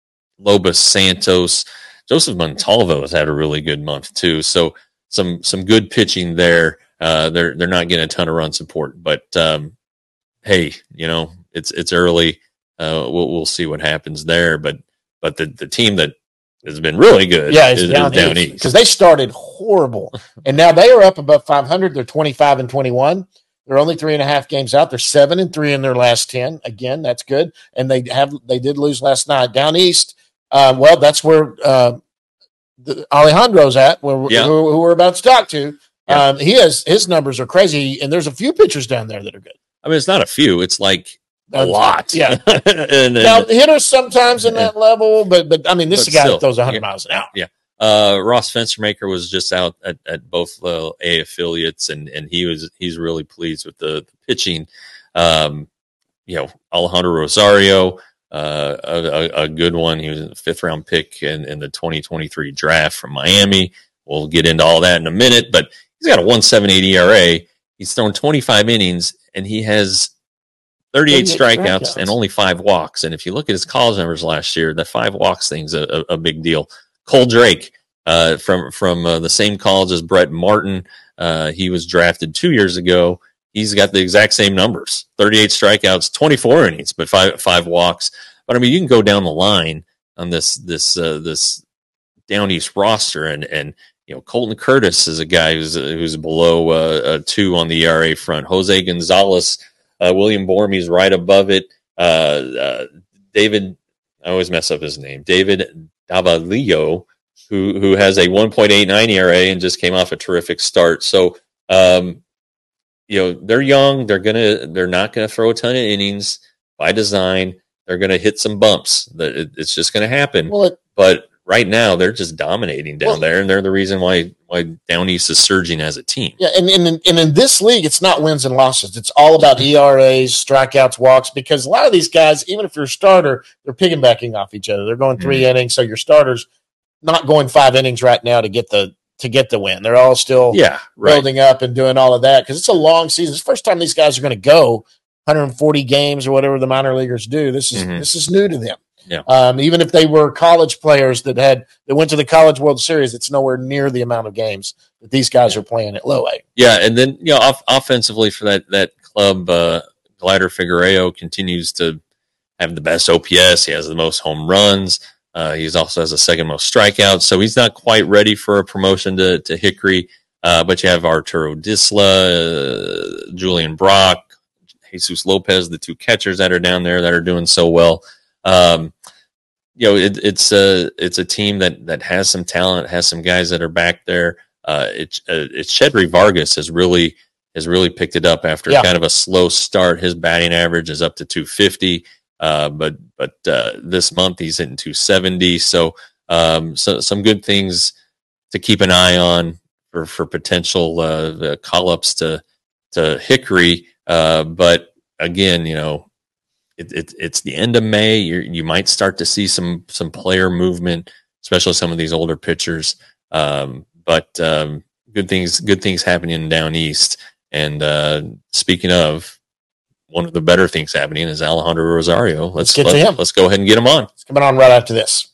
Lobos, Santos, Joseph Montalvo has had a really good month too. So some some good pitching there. Uh, they're they're not getting a ton of run support, but um, hey, you know, it's it's early. Uh, we'll we'll see what happens there. But but the, the team that has been really good, yeah, it's is, down, is down east east because they started horrible, and now they are up above five hundred. They're twenty-five and twenty-one. They're only three and a half games out. They're seven and three in their last ten. Again, that's good, and they have they did lose last night down east. Uh, well, that's where uh, the, Alejandro's at, where, yeah. who, who we're about to talk to. Yeah. Um, he has his numbers are crazy, and there's a few pitchers down there that are good. I mean, it's not a few; it's like a Uh, lot. Yeah. and, and, Now hitters sometimes in that level, but but I mean, this is a guy still, that throws one hundred yeah. miles an hour. Yeah. Uh, Ross Fenstermaker was just out at, at both uh, A affiliates, and, and he was he's really pleased with the, the pitching. Um, you know, Alejandro Rosario, uh, a, a, a good one. He was a fifth round pick in, in the twenty twenty-three draft from Miami. We'll get into all that in a minute, but he's got a one point seven eight E R A. He's thrown twenty-five innings, and he has thirty-eight strikeouts, strikeouts and only five walks. And if you look at his college numbers last year, that five walks thing's a, a, a big deal. Cole Drake, uh, from from uh, the same college as Brett Martin, uh, he was drafted two years ago. He's got the exact same numbers: thirty-eight strikeouts, twenty-four innings, but five five walks. But I mean, you can go down the line on this this uh, this down east roster, and and you know, Colton Curtis is a guy who's who's below uh, a two on the E R A front. Jose Gonzalez, uh, William Bormey's right above it. Uh, uh, David, I always mess up his name. David Davalillo, who who has a one point eight nine E R A and just came off a terrific start. So, um, you know, they're young. They're gonna they're not gonna throw a ton of innings by design. They're gonna hit some bumps. It's just gonna happen. Well, it, but right now they're just dominating down well, there, and they're the reason why why Down East is surging as a team. Yeah, and, and, and in this league, it's not wins and losses. It's all about E R As, strikeouts, walks, because a lot of these guys, even if you're a starter, they're piggybacking off each other. They're going three mm-hmm. innings, so your starter's not going five innings right now to get the to get the win. They're all still yeah, right. building up and doing all of that because it's a long season. It's the first time these guys are going to go one hundred forty games or whatever the minor leaguers do. This is mm-hmm. this is new to them. Yeah. Um, even if they were college players that had that went to the College World Series, it's nowhere near the amount of games that these guys are playing at low A. Yeah, and then you know, off- offensively for that that club, uh, Glider Figueiredo continues to have the best O P S. He has the most home runs. Uh, he also has the second most strikeouts. So he's not quite ready for a promotion to to Hickory. Uh, but you have Arturo Disla, uh, Julian Brock, Jesus Lopez, the two catchers that are down there that are doing so well. Um, you know, it, it's a it's a team that that has some talent, has some guys that are back there. Uh, it, uh, it's Shedry Vargas has really has really picked it up after yeah. kind of a slow start. His batting average is up to two fifty, uh, but but uh, this month he's hitting two seventy. So um, so some good things to keep an eye on for for potential uh, call ups to to Hickory. Uh, but again, you know. It, it, it's the end of May. You're, you might start to see some some player movement, especially some of these older pitchers. Um, but um, good things good things happening down east. And uh, speaking of, one of the better things happening is Alejandro Rosario. Let's, let's get let's, to him. Let's go ahead and get him on. It's coming on right after this.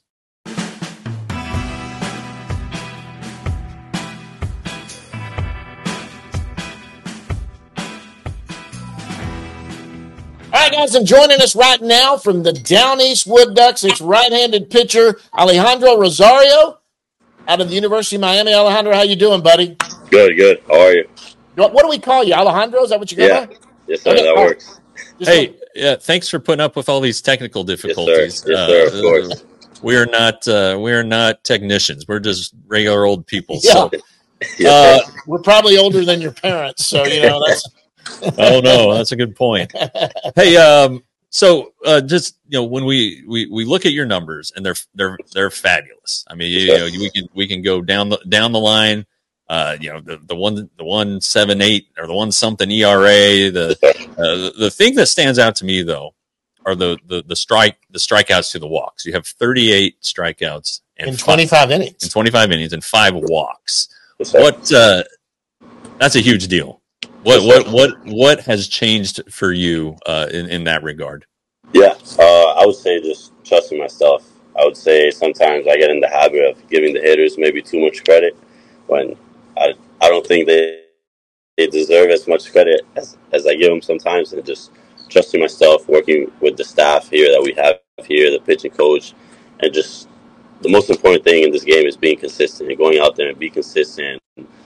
All right, guys, and joining us right now from the Down East Wood Ducks, it's right-handed pitcher Alejandro Rosario out of the University of Miami. Alejandro, how you doing, buddy? Good, good. How are you? What, what do we call you, Alejandro? Is that what you go Yeah. by? Yes, sir. Okay, That oh, works. just Hey, look- yeah, thanks for putting up with all these technical difficulties. Yes, sir. Yes, sir. Of Uh, course. We are not uh, we are not technicians. We're just regular old people. Yeah. So, Yes, uh, sir. We're probably older than your parents, so, you know, that's oh no, that's a good point. Hey, um, so uh, just you know, when we, we we look at your numbers, and they're they're they're fabulous. I mean, you, you know, we can we can go down the down the line. Uh, you know, the the one the one seven eight or the one something E R A. The uh, the, the thing that stands out to me though are the the the strike the strikeouts to the walks. You have thirty-eight strikeouts and in five- twenty-five innings. in twenty-five innings and five walks. Yes, sir. What uh, that's a huge deal. What what what what has changed for you uh, in in that regard? Yeah, uh, I would say just trusting myself. I would say sometimes I get in the habit of giving the hitters maybe too much credit when I I don't think they they deserve as much credit as, as I give them sometimes, and just trusting myself, working with the staff here that we have here, the pitching coach, and just the most important thing in this game is being consistent and going out there and be consistent.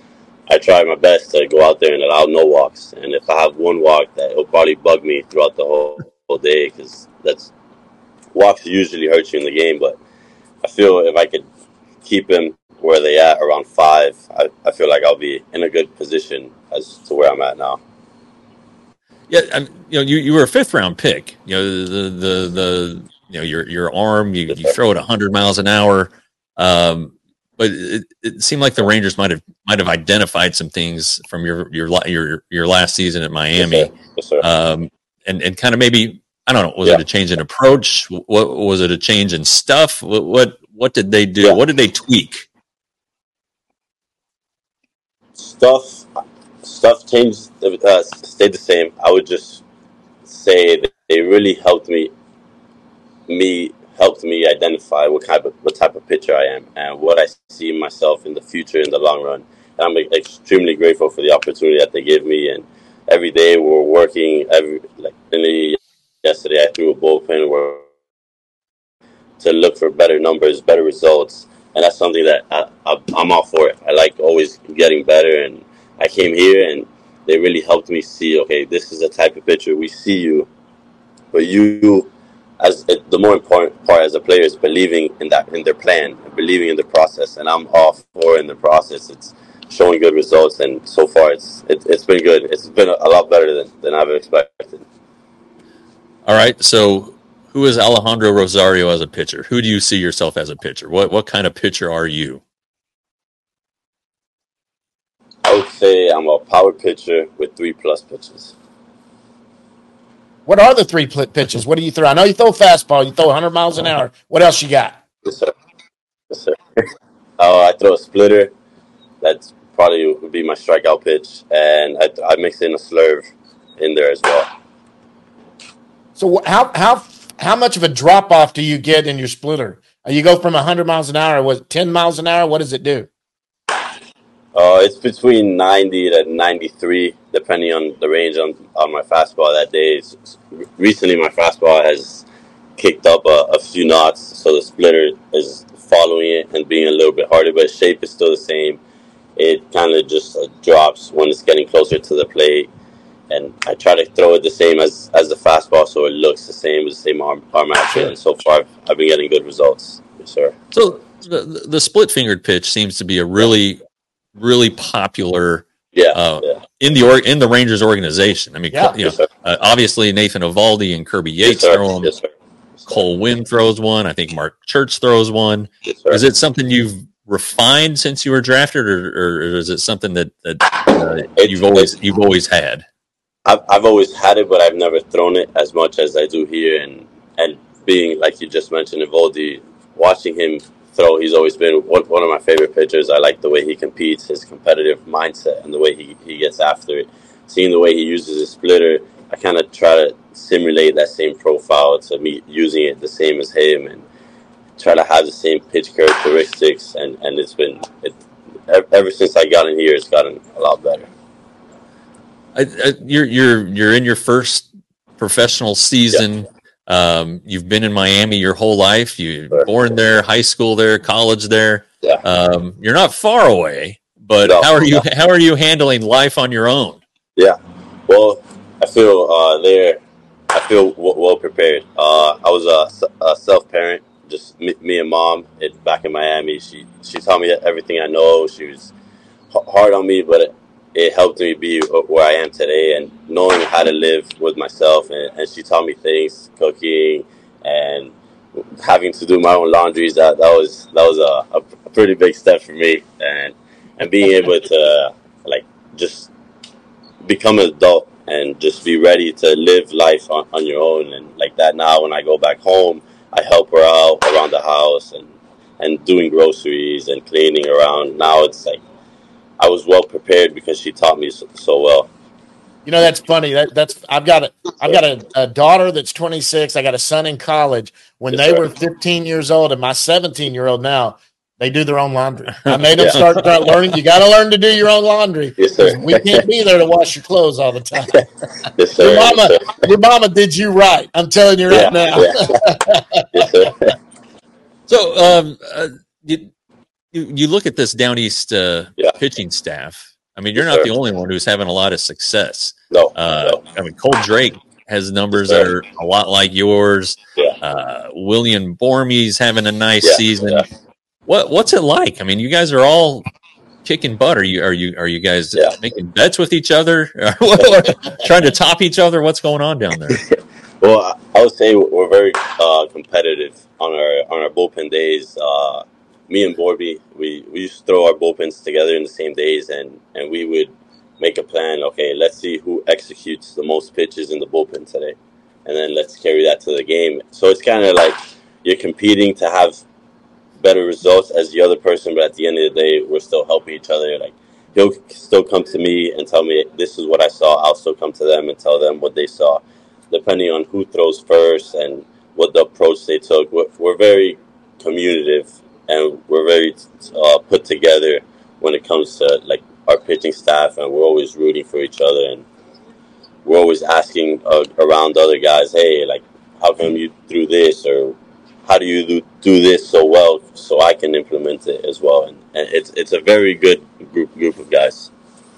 I try my best to go out there and allow no walks, and if I have one walk, that it'll probably bug me throughout the whole, whole day, because that's walks usually hurt you in the game. But I feel if I could keep them where they at around five, I, I feel like I'll be in a good position as to where I'm at now. Yeah, I mean, you know, you, you were a fifth round pick. You know, the the the you know your your arm, you, you throw it a hundred miles an hour. Um, but it, it seemed like the Rangers might have might have identified some things from your your la- your your last season at Miami, Yes, sir. Yes, sir. um, and and kind of maybe I don't know, was Yeah. it a change in approach? What was it a change in stuff? What what, what did they do? Yeah. What did they tweak? Stuff, stuff changed, uh, stayed the same. I would just say that they really helped me, me helped me identify what type of what type of pitcher I am and what I see myself in the future in the long run. And I'm extremely grateful for the opportunity that they give me. And every day we're working. Every like yesterday, I threw a bullpen where to look for better numbers, better results. And that's something that I, I, I'm all for it. I like always getting better. And I came here and they really helped me see, okay, this is the type of pitcher we see you. But you, as it, the more important part as a player is believing in that, in their plan, and believing in the process. And I'm all for in the process. It's showing good results. And so far, it's it, it's been good. It's been a, a lot better than, than I've expected. All right, so who is Alejandro Rosario as a pitcher? Who do you see yourself as a pitcher? What what kind of pitcher are you? I would say I'm a power pitcher with three plus pitches. What are the three pl- pitches? What do you throw? I know you throw a fastball. You throw one hundred miles an hour. What else you got? Yes, sir. Yes, sir. uh, I throw a splitter. That's probably would be my strikeout pitch. And I, I mix in a slurve in there as well. So how how how much of a drop off do you get in your splitter? Uh, You go from one hundred miles an hour, what, ten miles an hour? What does it do? Uh, it's between ninety to ninety-three, depending on the range on, on my fastball that day. It's, recently, my fastball has kicked up a, a few knots, so the splitter is following it and being a little bit harder, but shape is still the same. It kind of just uh, drops when it's getting closer to the plate, and I try to throw it the same as, as the fastball, so it looks the same with the same arm, arm action. And so far, I've, I've been getting good results. Yes, sir. So the the split fingered pitch seems to be a really really popular Yeah, uh, yeah. in the or, in the Rangers organization. I mean, Yeah. you know, Yes, sir. uh, obviously Nathan Eovaldi and Kirby Yates Yes, sir. throw them. Yes, sir. Cole Wynn throws one. I think Mark Church throws one. Yes, sir. Is it something you've refined since you were drafted, or, or is it something that, that uh, It's- you've always you've always had? I've, I've always had it, but I've never thrown it as much as I do here. And, and being, like you just mentioned, Eovaldi, watching him throw, he's always been one, one of my favorite pitchers. I like the way he competes, his competitive mindset, and the way he, he gets after it. seeing the way he uses his splitter, I kind of try to simulate that same profile to me using it the same as him and try to have the same pitch characteristics. And, and it's been, it, ever since I got in here, it's gotten a lot better. I, I, you're you're you're in your first professional season. Yeah. Um, you've been in Miami your whole life. You were born there, high school there, college there. Yeah. Um, you're not far away, but no, how are you no. how are you handling life on your own? Yeah. Well, I feel uh, there. I feel w- well prepared. Uh, I was a, a self parent, just me, me and mom. It, back in Miami, she she taught me everything I know. She was h- hard on me, but. It, It helped me be where I am today and knowing how to live with myself. And, and she taught me things, cooking and having to do my own laundries. That that was that was a, a pretty big step for me. And and being able to like just become an adult and just be ready to live life on, on your own. And like that now, when I go back home, I help her out around the house and, and doing groceries and cleaning around. Now it's like, I was well prepared because she taught me so, so well. You know, that's funny. That that's I've got a I've got a, a daughter that's twenty-six. I got a son in college. When Yes, they sir. were fifteen years old, and my seventeen year old now, they do their own laundry. I made them yeah. start, start learning. You got to learn to do your own laundry. Yes, sir. We can't be there to wash your clothes all the time. Yes, sir. Your mama, yes, sir. your mama did you right. I'm telling you right yeah, now. Yeah. Yes, sir. So, um, uh, you, you you look at this Down East uh, Yeah. pitching staff. I mean, you're Yes, not sir. the only one who's having a lot of success. No, Uh, no. I mean, Cole Drake has numbers Yes, that sir. are a lot like yours. Yeah. Uh, William Bormey's having a nice Yeah, season. yeah. What what's it like? I mean, you guys are all kicking butt. Are you are you are you guys Yeah. making bets with each other? Or trying to top each other? What's going on down there? Well, I- I would say we're very uh, competitive on our on our bullpen days. Uh, me and Borby, we, we used to throw our bullpens together in the same days, and, and we would make a plan. Okay, let's see who executes the most pitches in the bullpen today, and then let's carry that to the game. So it's kind of like you're competing to have better results as the other person, but at the end of the day, we're still helping each other. Like he'll still come to me and tell me this is what I saw. I'll still come to them and tell them what they saw, depending on who throws first and what the approach they took. We're, we're very communicative and we're very uh, put together when it comes to like our pitching staff, and we're always rooting for each other, and we're always asking uh, around other guys, hey, like how come you threw this, or how do you do, do this so well, so I can implement it as well. And, and it's it's a very good group group of guys.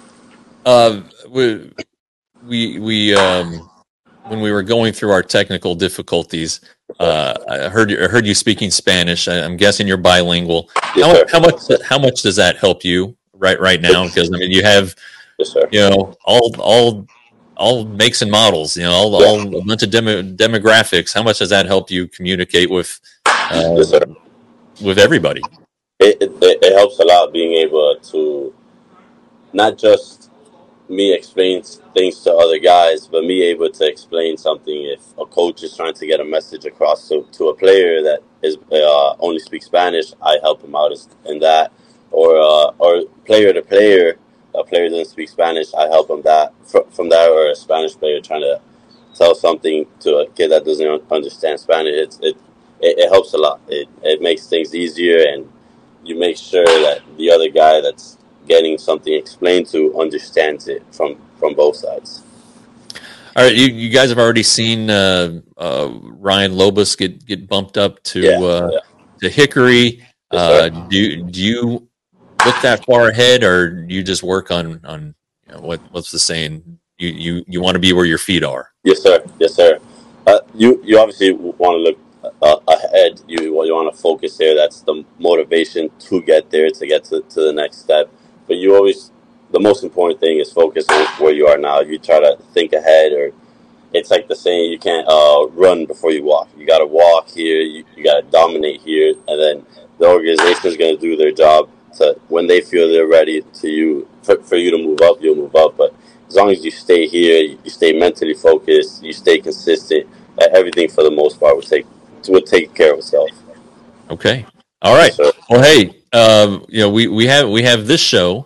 Uh, we we we um when we were going through our technical difficulties, uh, I heard you I heard you speaking Spanish. I, I'm guessing you're bilingual. Yes, how, sir. how much how much does that help you right right now? Because I mean, you have Yes, sir. you know all all all makes and models. You know, all, Yeah. all a bunch of demo, demographics. How much does that help you communicate with uh, Yes, sir. with everybody? It, it it helps a lot being able to not just me explain things to other guys, but me able to explain something if a coach is trying to get a message across to, to a player that is uh, only speaks Spanish. I help him out in that, or uh, or player to player, a player doesn't speak Spanish, I help him that from that, or a Spanish player trying to tell something to a kid that doesn't understand Spanish. It's, it, it it helps a lot. It it makes things easier, and you make sure that the other guy that's getting something explained to understands it from, from both sides. All right, you, you guys have already seen uh, uh, Ryan Lobus get, get bumped up to Yeah, uh, yeah. to Hickory. Yes, Uh, sir. do you, do you look that far ahead, or do you just work on on you know, what what's the saying? You you you want to be where your feet are. Yes, sir. Yes, sir. Uh, you you obviously want to look uh, ahead. You you want to focus there. That's the motivation to get there, to get to, to the next step. But you always, the most important thing is focus on where you are now. You try to think ahead, or it's like the saying, you can't uh, run before you walk. You got to walk here. You, you got to dominate here, and then the organization is going to do their job. To when they feel they're ready to you for, for you to move up, you'll move up. But as long as you stay here, you stay mentally focused, you stay consistent, everything for the most part will take will take care of itself. Okay. All right. Yes, sir. Well, hey, um, you know, we, we have we have this show,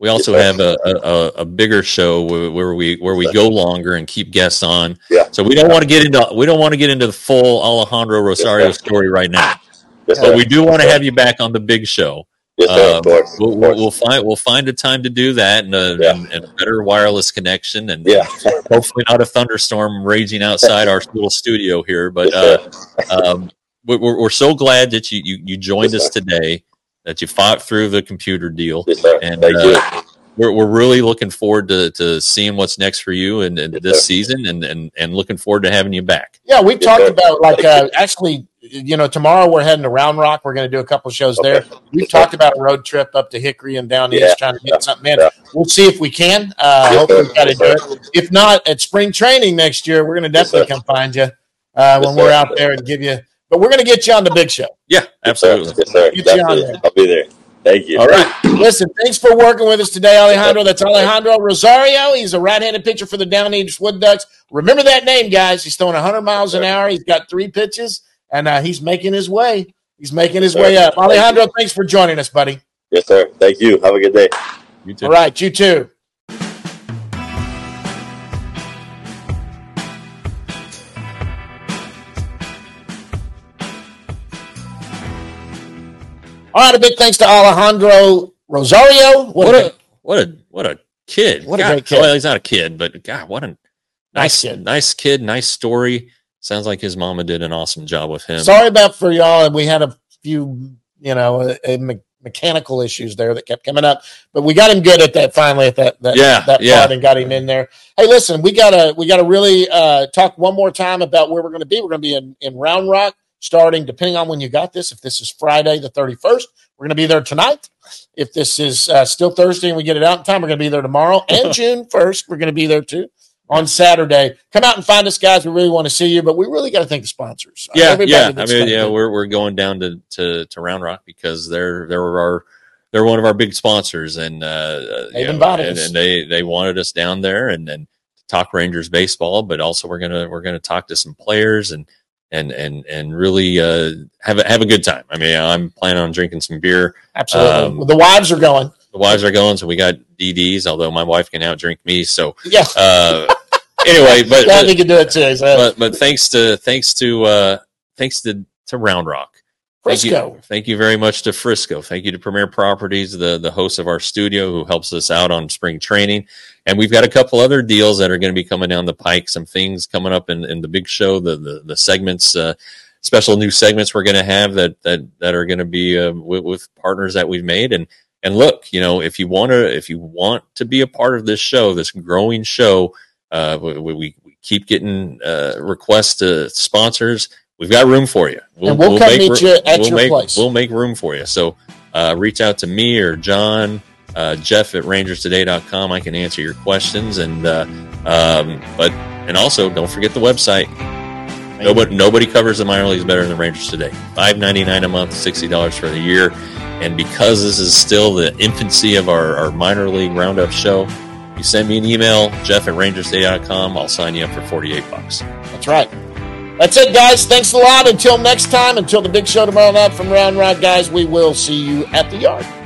we also Yes, have a, a, a bigger show where, where we where we Yes, go longer and keep guests on. Yeah. So we don't want to get into we don't want to get into the full Alejandro Rosario Yes, story right now. Yes, But sir. we do want to have you back on the big show. Yes, sir. Um, Of course. we'll, Of we'll, course. we'll find we'll find a time to do that and a, Yeah. and, and a better wireless connection and Yeah. hopefully not a thunderstorm raging outside our little studio here. But Yes, uh, sir. um, we- we're we're so glad that you you, you joined Yes, us sir. today, that you fought through the computer deal, Yes, sir. and Thank uh, you. we're we're really looking forward to, to seeing what's next for you and, and Yes, this sir. season, and, and and looking forward to having you back. Yeah, we Yes, talked sir. about like Thank uh, actually, you know, tomorrow we're heading to Round Rock. We're going to do a couple shows Okay. there. We've Yes, sir. talked about a road trip up to Hickory and down Yeah. east, trying to Yeah. get something in. Yeah. We'll see if we can. Uh, Yes, hopefully, sir. we've got to Yes, do sir. it. If not, at spring training next year, we're going to Yes, definitely sir. come find you uh, Yes, when we're sir. out there and give you. But we're going to get you on the big show. Yeah, Yes, sir. absolutely. Yes, sir. Get you on Definitely. there. I'll be there. Thank you. All right. Listen, thanks for working with us today, Alejandro. That's Alejandro Rosario. He's a right-handed pitcher for the Down East Wood Ducks. Remember that name, guys. He's throwing one hundred miles an hour. He's got three pitches, and uh, he's making his way. He's making his Yes, way sir. up. Thank Alejandro, you. thanks for joining us, buddy. Yes, sir. Thank you. Have a good day. You too. All right, you too. All right, a big thanks to Alejandro Rosario. What, What a, a what a what a kid! What a God, great kid. Well, he's not a kid, but God, what a Nice nice kid. nice kid, nice story. Sounds like his mama did an awesome job with him. sorry about for y'all. We had a few, you know, uh, uh, me- mechanical issues there that kept coming up, but we got him good at that finally at that that, Yeah, that yeah. part and got him in there. Hey, listen, we gotta we gotta really uh, talk one more time about where we're going to be. We're going to be in, in Round Rock starting, depending on when you got this. If this is Friday the thirty-first, we're going to be there tonight. If this is uh, still Thursday and we get it out in time, we're going to be there tomorrow. And June first, we're going to be there too on Saturday. Come out and find us, guys. We really want to see you, but we really got to thank the sponsors. Uh, Yeah, everybody yeah. I that's mean, done yeah, good. we're we're going down to, to, to Round Rock because they're they're our they're one of our big sponsors, and uh, They've you know, invited and, us. and they they wanted us down there and and talk Rangers baseball, but also we're gonna we're gonna talk to some players and and and and really uh, have a, have a good time. I mean, I'm planning on drinking some beer. Absolutely. Um, Well, the wives are going. The wives are going, so we got D Ds. Although my wife can outdrink me, so Yeah. uh, anyway, but, Glad we but could do it too. So. but but thanks to thanks to uh, thanks to to Round Rock. Thank Frisco. you, thank you very much to Frisco. Thank you to Premier Properties, the the host of our studio, who helps us out on spring training. And we've got a couple other deals that are going to be coming down the pike. Some things coming up in, in the big show, the the, the segments, uh, special new segments we're going to have that that that are going to be uh, with, with partners that we've made. And and look, you know, if you want to if you want to be a part of this show, this growing show, uh, we, we, we keep getting uh, requests to sponsors. We've got room for you. And we'll come make meet ro- you at we'll your make, place. We'll make room for you. So uh, reach out to me or John, uh, Jeff at rangers today dot com. I can answer your questions. And uh, um, but and also don't forget the website. Nobody nobody covers the minor leagues better than the Rangers Today. five ninety-nine a month, sixty dollars for the year. And because this is still the infancy of our, our minor league roundup show, you send me an email, Jeff at rangers today dot com. I'll sign you up for forty-eight bucks. That's right. That's it, guys. Thanks a lot. Until next time, until the big show tomorrow night from Round Rock, guys, we will see you at the yard.